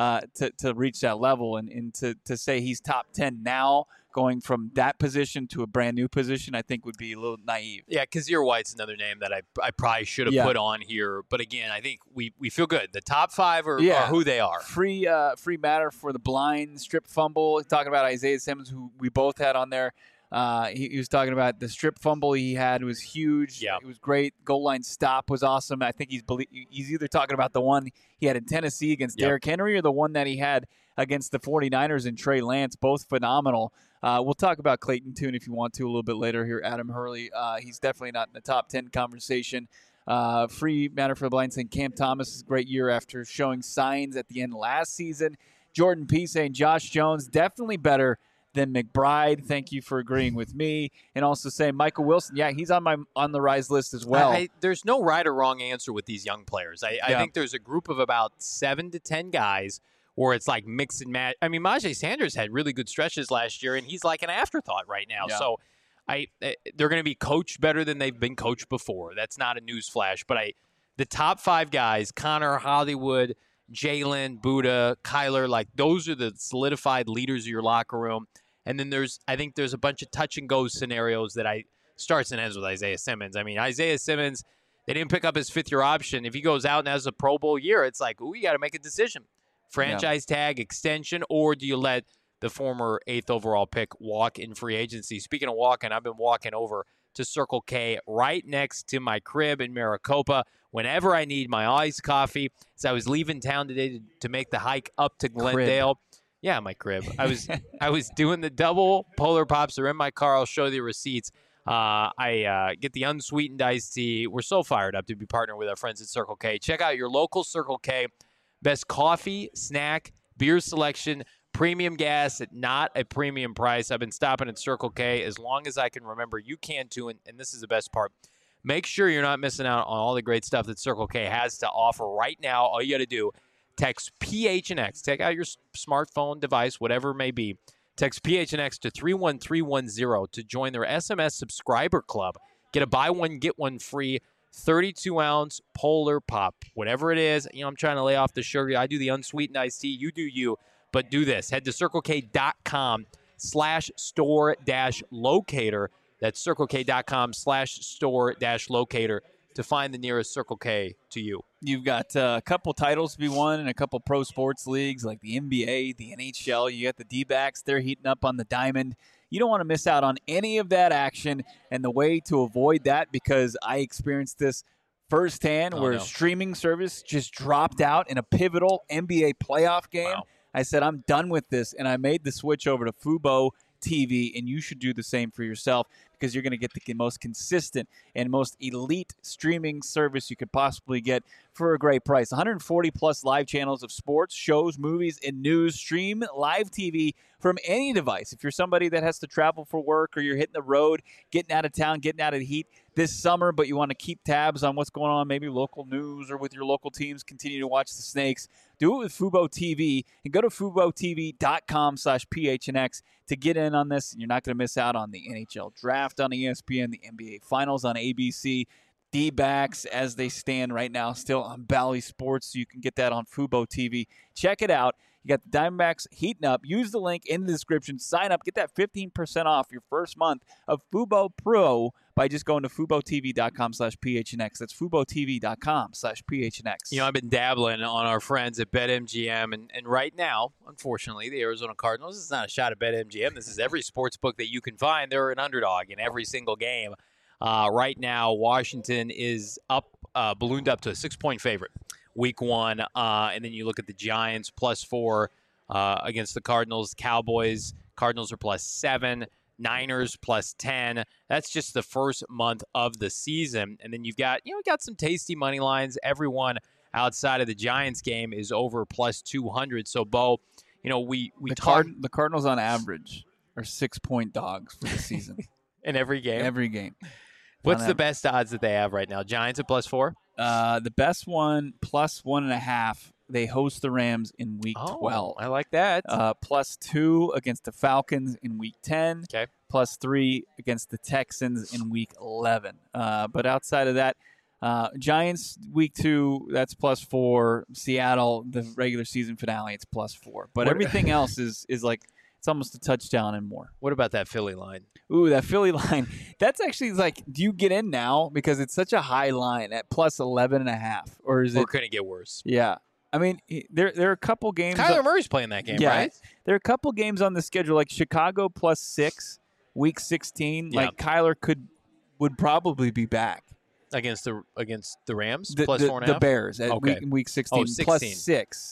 to reach that level, and to say he's top 10 now, going from that position to a brand new position, I think would be a little naive. Yeah, Kazir White's another name that I probably should have put on here. But again, I think we feel good. The top 5 are who they are. Free matter for the blind strip fumble. Talking about Isaiah Simmons, who we both had on there. He was talking about the strip fumble he had was huge. Yeah. It was great. Goal line stop was awesome. I think he's either talking about the one he had in Tennessee against Derrick Henry or the one that he had against the 49ers and Trey Lance, both phenomenal. We'll talk about Clayton Tune if you want to a little bit later here. Adam Hurley, he's definitely not in the top 10 conversation. Free matter for the blind saying Cam Thomas is a great year after showing signs at the end of last season. Jordan P. saying Josh Jones, definitely better than McBride. Thank you for agreeing with me. And also saying Michael Wilson, he's on the rise list as well. There's no right or wrong answer with these young players. I think there's a group of about 7 to 10 guys where it's like mix and match. I mean, Myjai Sanders had really good stretches last year, and he's like an afterthought right now. Yeah. So they're going to be coached better than they've been coached before. That's not a news flash. But the top 5 guys, Connor, Hollywood, Jalen, Buddha, Kyler, like those are the solidified leaders of your locker room. And then I think there's a bunch of touch and go scenarios that starts and ends with Isaiah Simmons. I mean, Isaiah Simmons, they didn't pick up his 5th-year option. If he goes out and has a Pro Bowl year, it's like, you got to make a decision. Franchise tag, extension, or do you let the former 8th overall pick walk in free agency? Speaking of walking, I've been walking over to Circle K right next to my crib in Maricopa whenever I need my iced coffee. So I was leaving town today to make the hike up to Glendale. Yeah, my crib. I was doing the double Polar Pops. They're in my car. I'll show you the receipts. I get the unsweetened iced tea. We're so fired up to be partnering with our friends at Circle K. Check out your local Circle K. Best coffee, snack, beer selection, premium gas at not a premium price. I've been stopping at Circle K as long as I can remember. You can too, and this is the best part. Make sure you're not missing out on all the great stuff that Circle K has to offer right now. All you got to do, text PHNX. Take out your smartphone device, whatever it may be. Text PHNX to 31310 to join their SMS subscriber club. Get a buy one, get one free 32-ounce Polar Pop. Whatever it is, I'm trying to lay off the sugar. I do the unsweetened iced tea. You do you. But do this. Head to CircleK.com/store-locator. That's CircleK.com/store-locator to find the nearest Circle K to you. You've got a couple titles to be won in a couple pro sports leagues like the NBA, the NHL. You got the D-backs. They're heating up on the diamond. You don't want to miss out on any of that action. And the way to avoid that, because I experienced this firsthand where streaming service just dropped out in a pivotal NBA playoff game. Wow. I said, I'm done with this. And I made the switch over to Fubo TV, and you should do the same for yourself because you're going to get the most consistent and most elite streaming service you could possibly get for a great price. 140 plus live channels of sports, shows, movies, and news. Stream live TV from any device. If you're somebody that has to travel for work or you're hitting the road, getting out of town, getting out of the heat this summer, but you want to keep tabs on what's going on, maybe local news or with your local teams, continue to watch the Snakes, do it with Fubo TV and go to FuboTV.com/PHNX to get in on this. You're not going to miss out on the NHL draft on ESPN, the NBA Finals on ABC, D-backs as they stand right now still on Bally Sports, so you can get that on Fubo TV. Check it out. You got the Diamondbacks heating up. Use the link in the description. Sign up. Get that 15% off your first month of Fubo Pro by just going to FuboTV.com/PHNX. That's FuboTV.com/PHNX. You know, I've been dabbling on our friends at BetMGM, and right now, unfortunately, the Arizona Cardinals, this is not a shot at BetMGM. This is every sports book that you can find. They're an underdog in every single game. Right now, Washington is ballooned up to a 6-point favorite week one. And then you look at the Giants +4 against the Cardinals. Cowboys, Cardinals are +7. Niners +10. That's just the first month of the season. And then you've got some tasty money lines. Everyone outside of the Giants game is over +200. So, Bo, we the Cardinals on average are 6-point dogs for the season. In every game? Every game. What's the best odds that they have right now? Giants at +4? The best one, +1.5. They host the Rams in Week 12. I like that. +2 against the Falcons in Week 10. Okay. +3 against the Texans in Week 11. But outside of that, Giants Week 2, that's +4. Seattle, the regular season finale, it's +4. But everything else is like it's almost a touchdown and more. What about that Philly line? Ooh, that Philly line. That's actually like, do you get in now because it's such a high line at +11.5, or is it? Or could it get worse? Yeah. I mean, there are a couple games. Kyler Murray's playing that game, right? There are a couple games on the schedule, like Chicago +6, Week 16. Yeah. Like Kyler would probably be back against the Rams, the, +4.5. The Bears at Okay. week 16, 16. +6.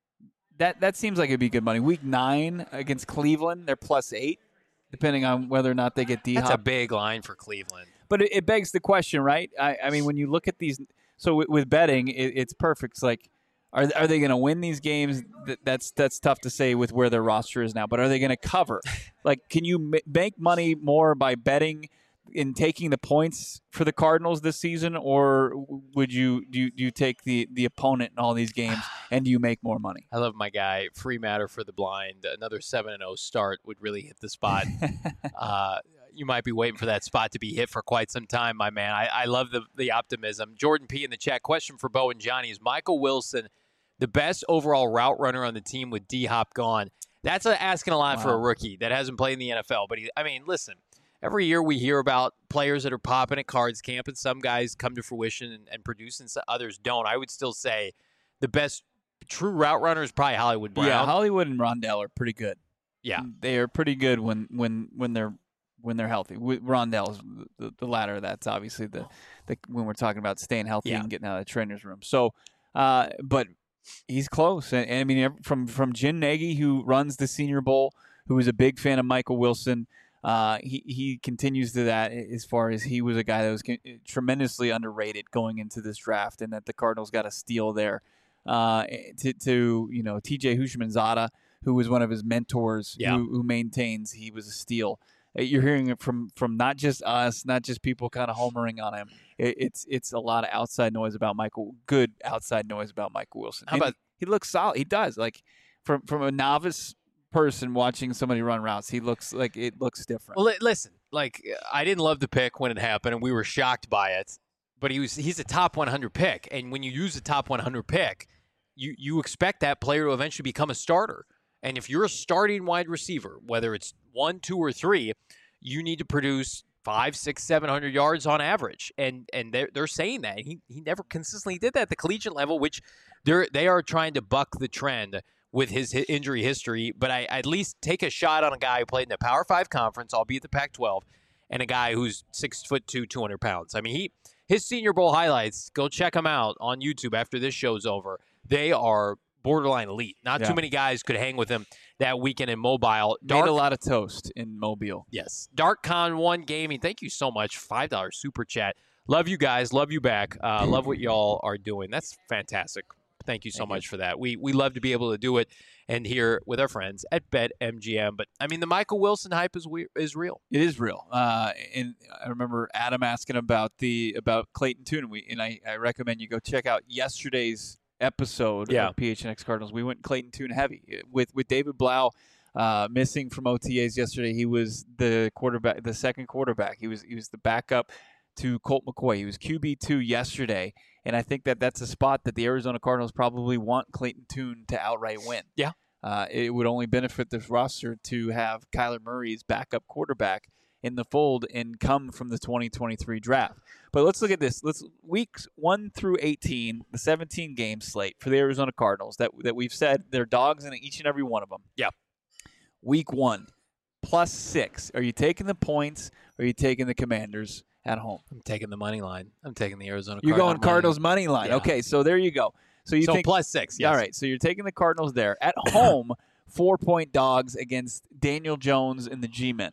That seems like it'd be good money. Week 9 against Cleveland, they're +8, depending on whether or not they get D-Hop. That's a big line for Cleveland. But it begs the question, right? I mean, when you look at these, so with betting, it's perfect. It's like, are they going to win these games? That's tough to say with where their roster is now. But are they going to cover? Like, can you make money more by betting in taking the points for the Cardinals this season, or would do you take the opponent in all these games and do you make more money? I love my guy, Free Matter for the Blind. Another 7-0 start would really hit the spot. You might be waiting for that spot to be hit for quite some time, my man. I love the optimism. Jordan P. in the chat, question for Bo and Johnny. Is Michael Wilson the best overall route runner on the team with D-Hop gone? That's asking a lot for a rookie that hasn't played in the NFL. But, listen, every year we hear about players that are popping at Cards Camp, and some guys come to fruition and produce, and others don't. I would still say the best true route runner is probably Hollywood Brown. Yeah, Hollywood and Rondell are pretty good. Yeah. They are pretty good when they're healthy. Rondell's the latter. That's obviously the when we're talking about staying healthy and getting out of the trainer's room. So, but he's close. And I mean, from Jim Nagy, who runs the Senior Bowl, who is a big fan of Michael Wilson, he continues to that as far as he was a guy that was tremendously underrated going into this draft, and that the Cardinals got a steal there. To T.J. Houshmandzadeh, who was one of his mentors, who maintains he was a steal. You're hearing it from not just us, not just people kind of homering on him. It's a lot of outside noise about good outside noise about Michael Wilson. How about he looks solid? He does. Like from a novice person watching somebody run routes, it looks different. Well, listen, I didn't love the pick when it happened, and we were shocked by it. But he's a top 100 pick, and when you use a top 100 pick, you expect that player to eventually become a starter. And if you're a starting wide receiver, whether it's 1, 2, or 3, you need to produce 500, 600, 700 yards on average. And they're saying that. He never consistently did that at the collegiate level, which they are trying to buck the trend with his injury history. But I at least take a shot on a guy who played in the Power 5 conference, albeit the Pac-12, and a guy who's 6'2", 200 pounds. I mean, his Senior Bowl highlights, go check them out on YouTube after this show's over. They are borderline elite. Not too many guys could hang with him that weekend in Mobile. Made a lot of toast in Mobile. Yes. DarkCon1 Gaming, thank you so much. $5 super chat. Love you guys. Love you back. Love what y'all are doing. That's fantastic. Thank you so much for that. We love to be able to do it and here with our friends at BetMGM. But, I mean, the Michael Wilson hype is real. It is real. And I remember Adam asking about Clayton Tune, and I recommend you go check out yesterday's episode of PHNX Cardinals. We went Clayton Tune heavy with David Blau missing from OTAs yesterday. He was the quarterback, the second quarterback. He was the backup to Colt McCoy. He was QB2 yesterday, and I think that that's a spot that the Arizona Cardinals probably want Clayton Tune to outright win. Yeah. It would only benefit this roster to have Kyler Murray's backup quarterback in the fold and come from the 2023 draft. But let's look at this. Weeks 1 through 18, the 17-game slate for the Arizona Cardinals that we've said they're dogs in each and every one of them. Yeah. Week 1, +6. Are you taking the points or are you taking the Commanders at home? I'm taking the money line. I'm taking the Arizona You're Cardinals. going Cardinals money line. Yeah. Okay, so there you go. So you think +6, yes. All right, so you're taking the Cardinals there. At home, 4-point dogs against Daniel Jones and the G-Men.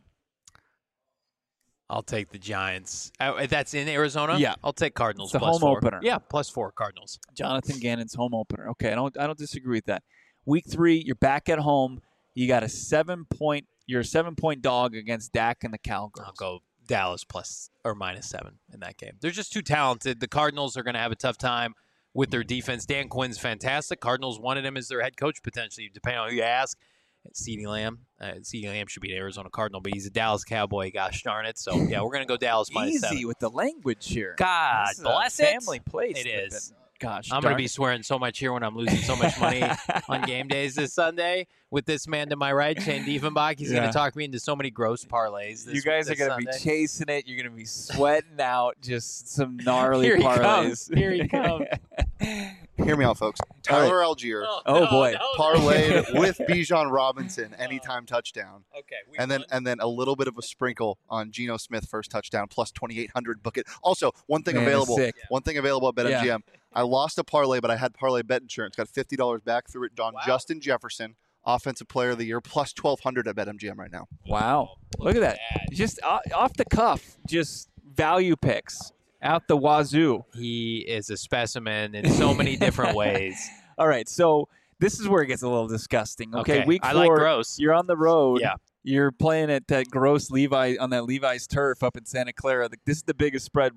I'll take the Giants. That's in Arizona? Yeah. I'll take Cardinals It's the +4. home opener. Yeah, +4 Cardinals. Jonathan Gannon's home opener. Okay, I don't disagree with that. Week 3, you're back at home. You got you're a 7-point dog against Dak and the Cowgirls. I'll go Dallas +7 in that game. They're just too talented. The Cardinals are going to have a tough time with their defense. Dan Quinn's fantastic. Cardinals wanted him as their head coach potentially, depending on who you ask. CeeDee Lamb. CeeDee Lamb should be an Arizona Cardinal, but he's a Dallas Cowboy. Gosh darn it. So, yeah, we're going to go Dallas -7. Easy with the language here. God This is bless a it. family place. It is. Gosh, I'm going to be swearing so much here when I'm losing so much money on game days this Sunday with this man to my right, Shane Diefenbach. He's going Yeah. to talk me into so many gross parlays. You guys are going to be chasing it. You're going to be sweating out just some gnarly Here he parlays. comes. Here he comes. Hear me out, folks. Tyler Algier Oh, boy. parlayed with Bijan Robinson anytime touchdown, Okay. and then a little bit of a sprinkle on Geno Smith first touchdown plus 2,800 book it. Also, one thing Man, available sick. at BetMGM. I lost a parlay, but I had parlay bet insurance. Got $50 back through it. Don Justin Jefferson, Offensive Player of the Year, plus 1,200 at BetMGM right now. Wow. Look at that. Just off the cuff, just value picks out the wazoo. He is a specimen in so many different ways. All right, so this is where it gets a little disgusting. Okay, week 4, I like gross. you're on the road. Yeah. You're playing at that gross Levi's turf up in Santa Clara. This is the biggest spread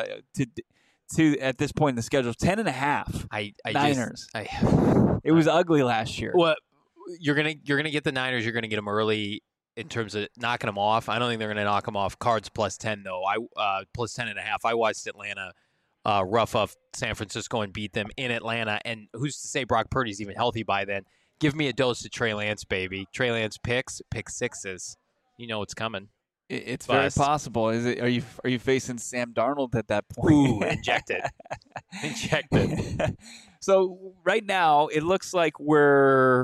to at this point in the schedule. 10.5. I Niners. Just, It was ugly last year. Well, you're gonna get the Niners. You're gonna get them early in terms of knocking them off. I don't think they're gonna knock them off. Cards +10 though. Plus 10.5. I watched Atlanta rough up San Francisco and beat them in Atlanta. And who's to say Brock Purdy's even healthy by then? Give me a dose of Trey Lance, baby. Trey Lance pick sixes. You know it's coming. It's very Bust. possible. Is it? Are you facing Sam Darnold at that point? Ooh, injected. So right now it looks like we're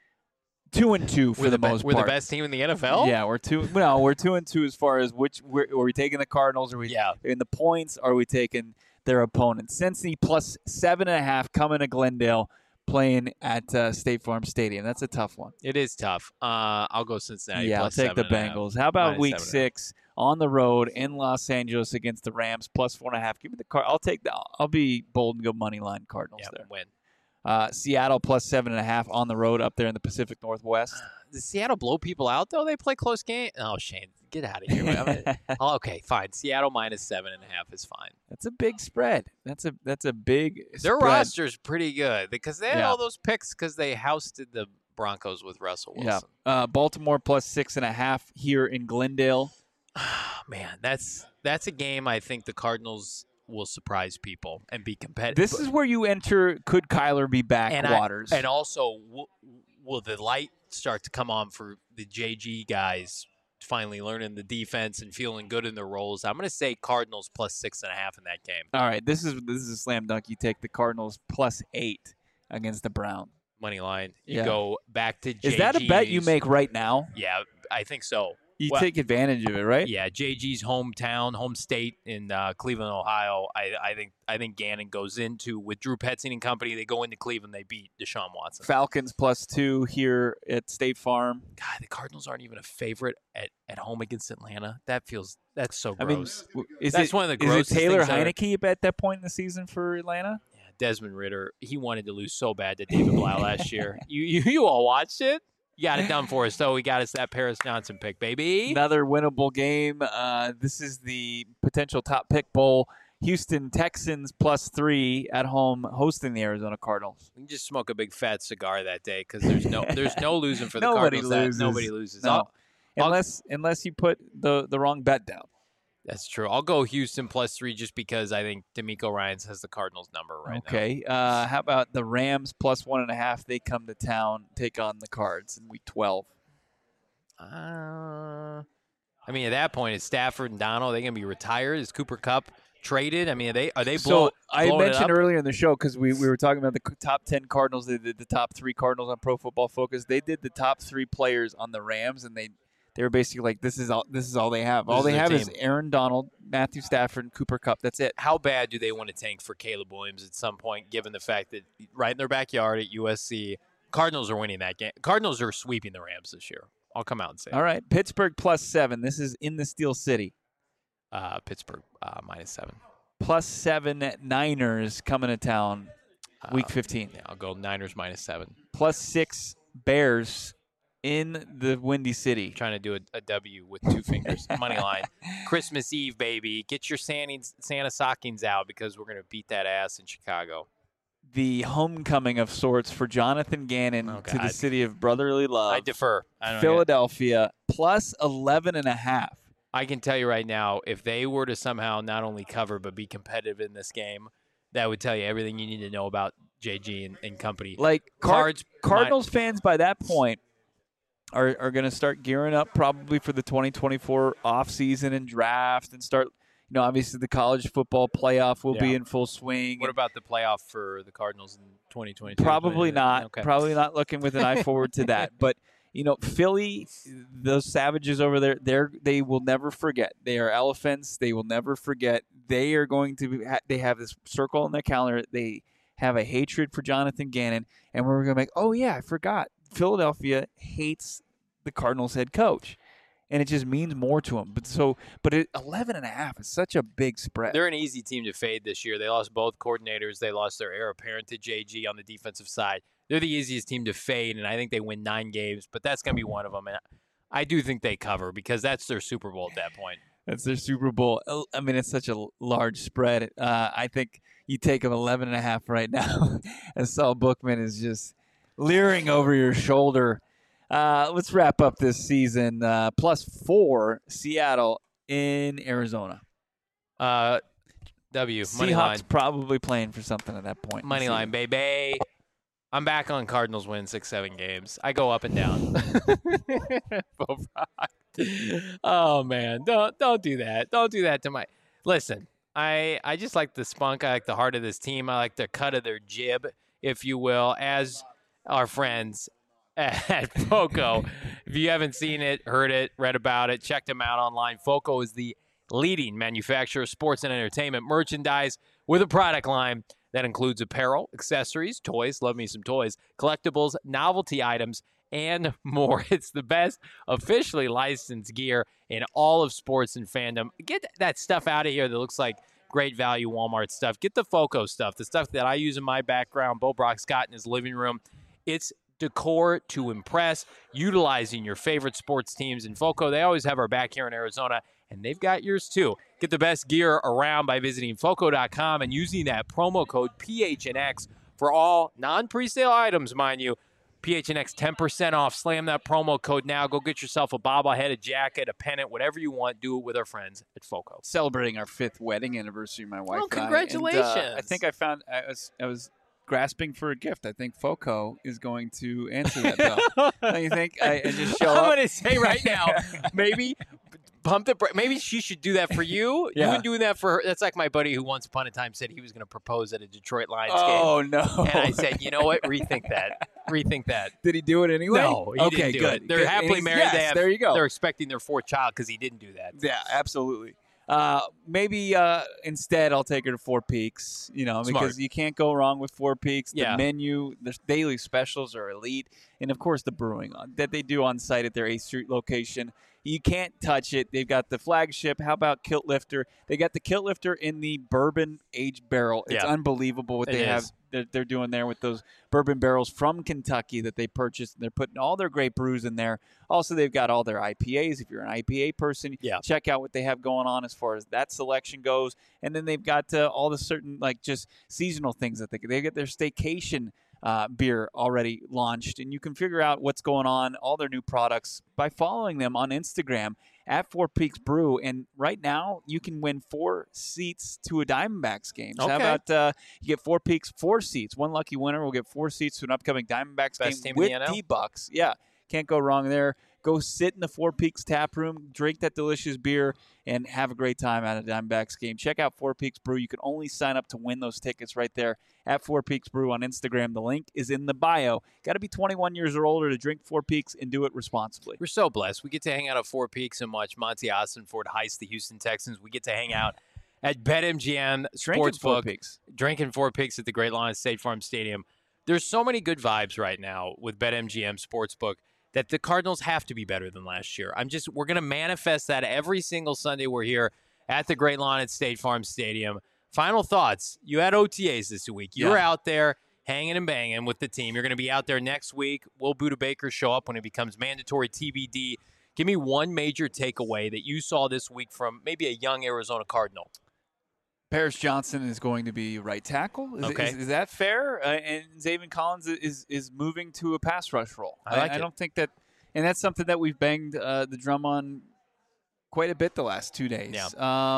2-2 for the most part. We're the best team in the NFL. Yeah, we're 2-2 as far as are we taking the Cardinals? Are we in the points? Are we taking their opponents? Cincy plus 7.5 coming to Glendale, playing at State Farm Stadium. That's a tough one. It is tough. I'll go Cincinnati. Yeah, I'll plus take the 7.5. Bengals. How about Minus Week 7.5. 6 on the road in Los Angeles against the Rams plus 4.5? Give me the I'll take the. I'll be bold and go money line Cardinals Yeah, there. win. Seattle plus 7.5 on the road up there in the Pacific Northwest. Does Seattle blow people out though? They play close game. Oh, Shane, get out of here. Okay, fine. Seattle minus 7.5 is fine. That's a big spread. That's a big. Their spread. roster's pretty good because they had Yeah. all those picks because they housed the Broncos with Russell Wilson. Yeah. Baltimore plus 6.5 here in Glendale. Man, that's a game I think the Cardinals will surprise people and be competitive. This is where you enter. Could Kyler be back? and Waters. and also, will the light start to come on for the JG guys finally learning the defense and feeling good in their roles? I'm going to say Cardinals plus 6.5 in that game. All right, this is a slam dunk. You take the Cardinals plus 8 against the Browns. Money line. You Yeah. go back to JG's. Is that a bet you make right now? Yeah, I think so. You Well, take advantage of it, right? Yeah, JG's home state in Cleveland, Ohio. I think Gannon goes into with Drew Petzing and company. They go into Cleveland. They beat Deshaun Watson. Falcons plus 2 here at State Farm. God, the Cardinals aren't even a favorite at home against Atlanta. That's so I mean, gross. is That's it one of the is it grossest Taylor things ever. Heineke at that point in the season for Atlanta? Yeah, Desmond Ritter. He wanted to lose so bad to David Blau last year. You all watched it. You got it done for us, though. We got us that Paris Johnson pick, baby. Another winnable game. This is the potential top pick bowl. Houston Texans plus 3 at home hosting the Arizona Cardinals. We can just smoke a big fat cigar that day because there's no losing for the Nobody Cardinals. loses. Nobody loses. No. I'll- Unless you put the wrong bet down. That's true. I'll go Houston +3 just because I think D'Amico Ryans has the Cardinals number right now. Okay. How about the Rams +1.5? They come to town, take on the Cards in Week 12. I mean, at that point, is Stafford and Donald, are they going to be retired? Is Cooper Kupp traded? I mean, are they blowing I mentioned it up? earlier in the show, because we were talking about the top 10 Cardinals. They did the top 3 Cardinals on Pro Football Focus. They did the top 3 players on the Rams, and they were basically like, this is all they have. All they have is Aaron Donald, Matthew Stafford, and Cooper Kupp. That's it. How bad do they want to tank for Caleb Williams at some point, given the fact that right in their backyard at USC, Cardinals are winning that game. Cardinals are sweeping the Rams this year. I'll come out and say All right. Pittsburgh +7. This is in the Steel City. Pittsburgh -7. +7 Niners coming to town Week 15. Yeah, I'll go Niners -7. +6 Bears in the Windy City. Trying to do a W with 2 fingers. Money line. Christmas Eve, baby. Get your Santa stockings out because we're going to beat that ass in Chicago. The homecoming of sorts for Jonathan Gannon to the city of brotherly love. I defer. I don't Philadelphia +11.5. I can tell you right now, if they were to somehow not only cover but be competitive in this game, that would tell you everything you need to know about JG and company. Like Cardinals fans by that point are going to start gearing up probably for the 2024 offseason and draft and start, obviously the college football playoff will be in full swing. What about the playoff for the Cardinals in 2022? Probably not. Okay. Probably not looking with an eye forward to that. But, Philly, those savages over there, they will never forget. They are elephants. They will never forget. They are going to they have this circle on their calendar. They have a hatred for Jonathan Gannon. And we're going to make, oh, yeah, I forgot. Philadelphia hates the Cardinals head coach. And it just means more to them. But 11.5 is such a big spread. They're an easy team to fade this year. They lost both coordinators. They lost their heir apparent to JG on the defensive side. They're the easiest team to fade, and I think they win 9 games. But that's going to be one of them. And I do think they cover because that's their Super Bowl at that point. That's their Super Bowl. I mean, it's such a large spread. I think you take them 11.5 right now. And Saul Bookman is just leering over your shoulder. Let's wrap up this season. +4 Seattle in Arizona. W. Money line. Seahawks probably playing for something at that point. Money line, baby. I'm back on Cardinals winning 6-7 games. I go up and down. Oh man, don't do that. Don't do that to my. Listen, I just like the spunk. I like the heart of this team. I like the cut of their jib, if you will, as our friends at FOCO. If you haven't seen it, heard it, read about it, check them out online. FOCO is the leading manufacturer of sports and entertainment merchandise with a product line that includes apparel, accessories, toys, love me some toys, collectibles, novelty items, and more. It's the best officially licensed gear in all of sports and fandom. Get that stuff out of here that looks like great value Walmart stuff. Get the FOCO stuff, the stuff that I use in my background, Bo Brock's got in his living room. It's decor to impress, utilizing your favorite sports teams in FOCO. They always have our back here in Arizona, and they've got yours too. Get the best gear around by visiting FOCO.com and using that promo code PHNX for all non-presale items, mind you. PHNX 10% off. Slam that promo code now. Go get yourself a bobblehead, a jacket, a pennant, whatever you want. Do it with our friends at FOCO. Celebrating our 5th wedding anniversary, my wife. Well, congratulations. And, I think I was grasping for a gift. I think FOCO is going to answer that bell. Don't you think? I just show up. I'm going to say right now, maybe pump the maybe she should do that for you. Yeah. You've been doing that for her. That's like my buddy who once upon a time said he was going to propose at a Detroit Lions game. Oh, no. And I said, you know what? Rethink that. Rethink that. Did he do it anyway? No, he didn't do good. it. They're Good. happily married. Yes, there you go. They're expecting their 4th child because he didn't do that. Yeah, absolutely. Maybe instead I'll take her to Four Peaks, because you can't go wrong with Four Peaks. The menu, the daily specials are elite. And, of course, the brewing that they do on site at their 8th Street location. You can't touch it. They've got the flagship. How about Kilt Lifter? They got the Kilt Lifter in the bourbon aged barrel. It's unbelievable what they have. They're doing there with those bourbon barrels from Kentucky that they purchased. They're putting all their great brews in there. Also, they've got all their IPAs. If you're an IPA person, check out what they have going on as far as that selection goes. And then they've got all the certain just seasonal things that they get their staycation beer already launched. And you can figure out what's going on, all their new products, by following them on Instagram at Four Peaks Brew. And right now, you can win 4 seats to a Diamondbacks game. So Okay. how about you get Four Peaks 4 seats? One lucky winner will get 4 seats to an upcoming Diamondbacks Best game team in with the NL? D-Bucks. Yeah, can't go wrong there. Go sit in the Four Peaks tap room, drink that delicious beer, and have a great time at a Diamondbacks game. Check out Four Peaks Brew. You can only sign up to win those tickets right there at Four Peaks Brew on Instagram. The link is in the bio. Got to be 21 years or older to drink Four Peaks and do it responsibly. We're so blessed. We get to hang out at Four Peaks and watch Monty Ossenford heist the Houston Texans. We get to hang out at BetMGM Drinking Four Sportsbook, Peaks. drinking Four Peaks at the Great Lawn State Farm Stadium. There's so many good vibes right now with BetMGM Sportsbook that the Cardinals have to be better than last year. We're going to manifest that every single Sunday we're here at the Great Lawn at State Farm Stadium. Final thoughts. You had OTAs this week. You were out there hanging and banging with the team. You're going to be out there next week. Will Buda Baker show up when it becomes mandatory TBD? Give me one major takeaway that you saw this week from maybe a young Arizona Cardinal. Paris Johnson is going to be right tackle. Is that fair? And Zaven Collins is moving to a pass rush role. I don't think that, and that's something that we've banged the drum on quite a bit the last 2 days. Yeah.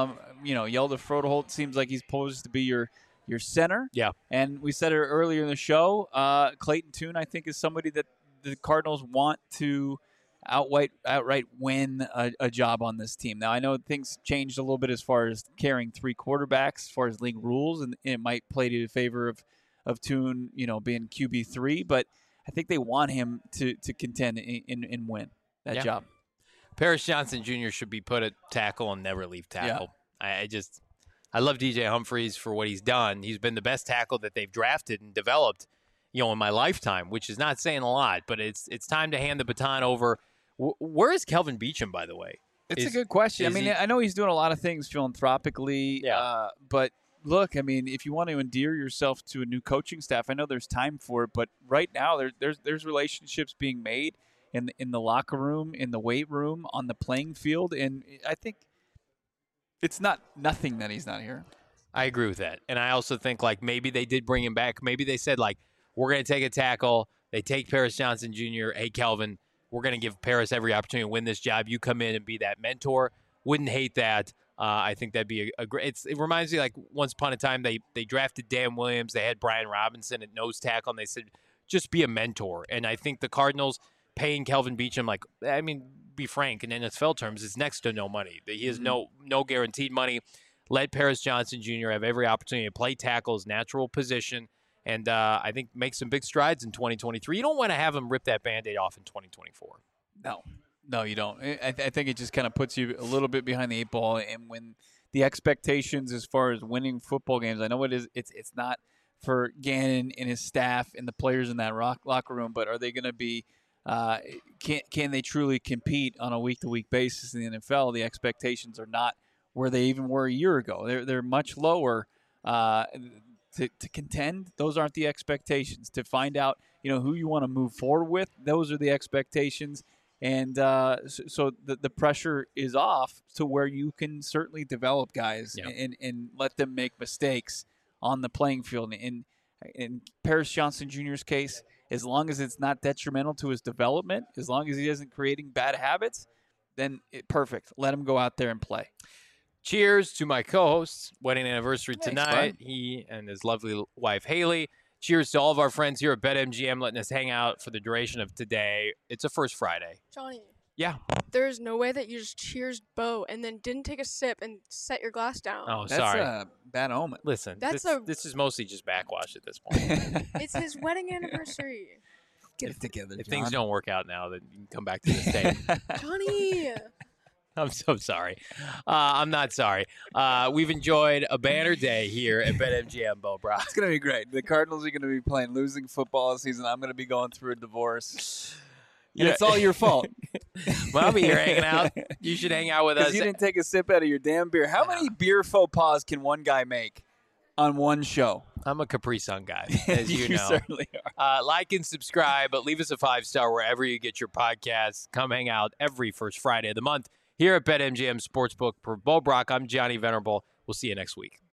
Yelda Frodeholt seems like he's posed to be your center. Yeah. And we said it earlier in the show. Clayton Tune, I think, is somebody that the Cardinals want to outright win a job on this team. Now, I know things changed a little bit as far as carrying 3 quarterbacks, as far as league rules, and it might play to the favor of Tune, being QB3, but I think they want him to contend and win that job. Paris Johnson Jr. should be put at tackle and never leave tackle. Yeah. I love DJ Humphries for what he's done. He's been the best tackle that they've drafted and developed, in my lifetime, which is not saying a lot, but it's time to hand the baton over. Where is Kelvin Beachum, by the way? It's a good question. I know he's doing a lot of things philanthropically, but look, if you want to endear yourself to a new coaching staff, I know there's time for it, but right now there's relationships being made in the locker room, in the weight room, on the playing field, and I think it's not nothing that he's not here. I agree with that, and I also think maybe they did bring him back. Maybe they said we're going to take a tackle. They take Paris Johnson Jr. Hey, Kelvin, we're going to give Paris every opportunity to win this job. You come in and be that mentor. Wouldn't hate that. I think that'd be a great. It reminds me once upon a time they drafted Dan Williams. They had Brian Robinson at nose tackle, and they said just be a mentor. And I think the Cardinals paying Kelvin Beachum, be frank, in NFL terms, is next to no money. He has no guaranteed money. Let Paris Johnson Jr. have every opportunity to play tackle, his natural position. And I think make some big strides in 2023. You don't want to have him rip that Band-Aid off in 2024. No, you don't. I think it just kind of puts you a little bit behind the 8 ball. And when the expectations as far as winning football games, I know it is. It's not for Gannon and his staff and the players in that locker room, but are they going to be? Can they truly compete on a week-to-week basis in the NFL? The expectations are not where they even were a year ago. They're much lower. To contend, those aren't the expectations. To find out, who you want to move forward with, those are the expectations. And so the pressure is off to where you can certainly develop guys and let them make mistakes on the playing field. And in Paris Johnson Jr.'s case, as long as it's not detrimental to his development, as long as he isn't creating bad habits, then perfect. Let him go out there and play. Cheers to my co-host's wedding anniversary tonight. Thanks, He and his lovely wife, Haley. Cheers to all of our friends here at BetMGM letting us hang out for the duration of today. It's a first Friday. Johnny. Yeah. There's no way that you just cheers Bo and then didn't take a sip and set your glass down. Oh, That's sorry. a bad omen. Listen, That's this is mostly just backwash at this point. It's his wedding anniversary. Get it together, If John. things don't work out now, then you can come back to this day. Johnny. I'm so sorry. I'm not sorry. We've enjoyed a banner day here at BetMGM, Bo Brock. It's going to be great. The Cardinals are going to be playing losing football season. I'm going to be going through a divorce. And it's all your fault. Well, I'll be here hanging out. You should hang out with us. Because you didn't take a sip out of your damn beer. How many beer faux pas can one guy make on one show? I'm a Capri Sun guy, as you You know. certainly are. Like and subscribe, but leave us a 5-star wherever you get your podcasts. Come hang out every first Friday of the month here at BetMGM Sportsbook. For Bo Brock, I'm Johnny Venerable. We'll see you next week.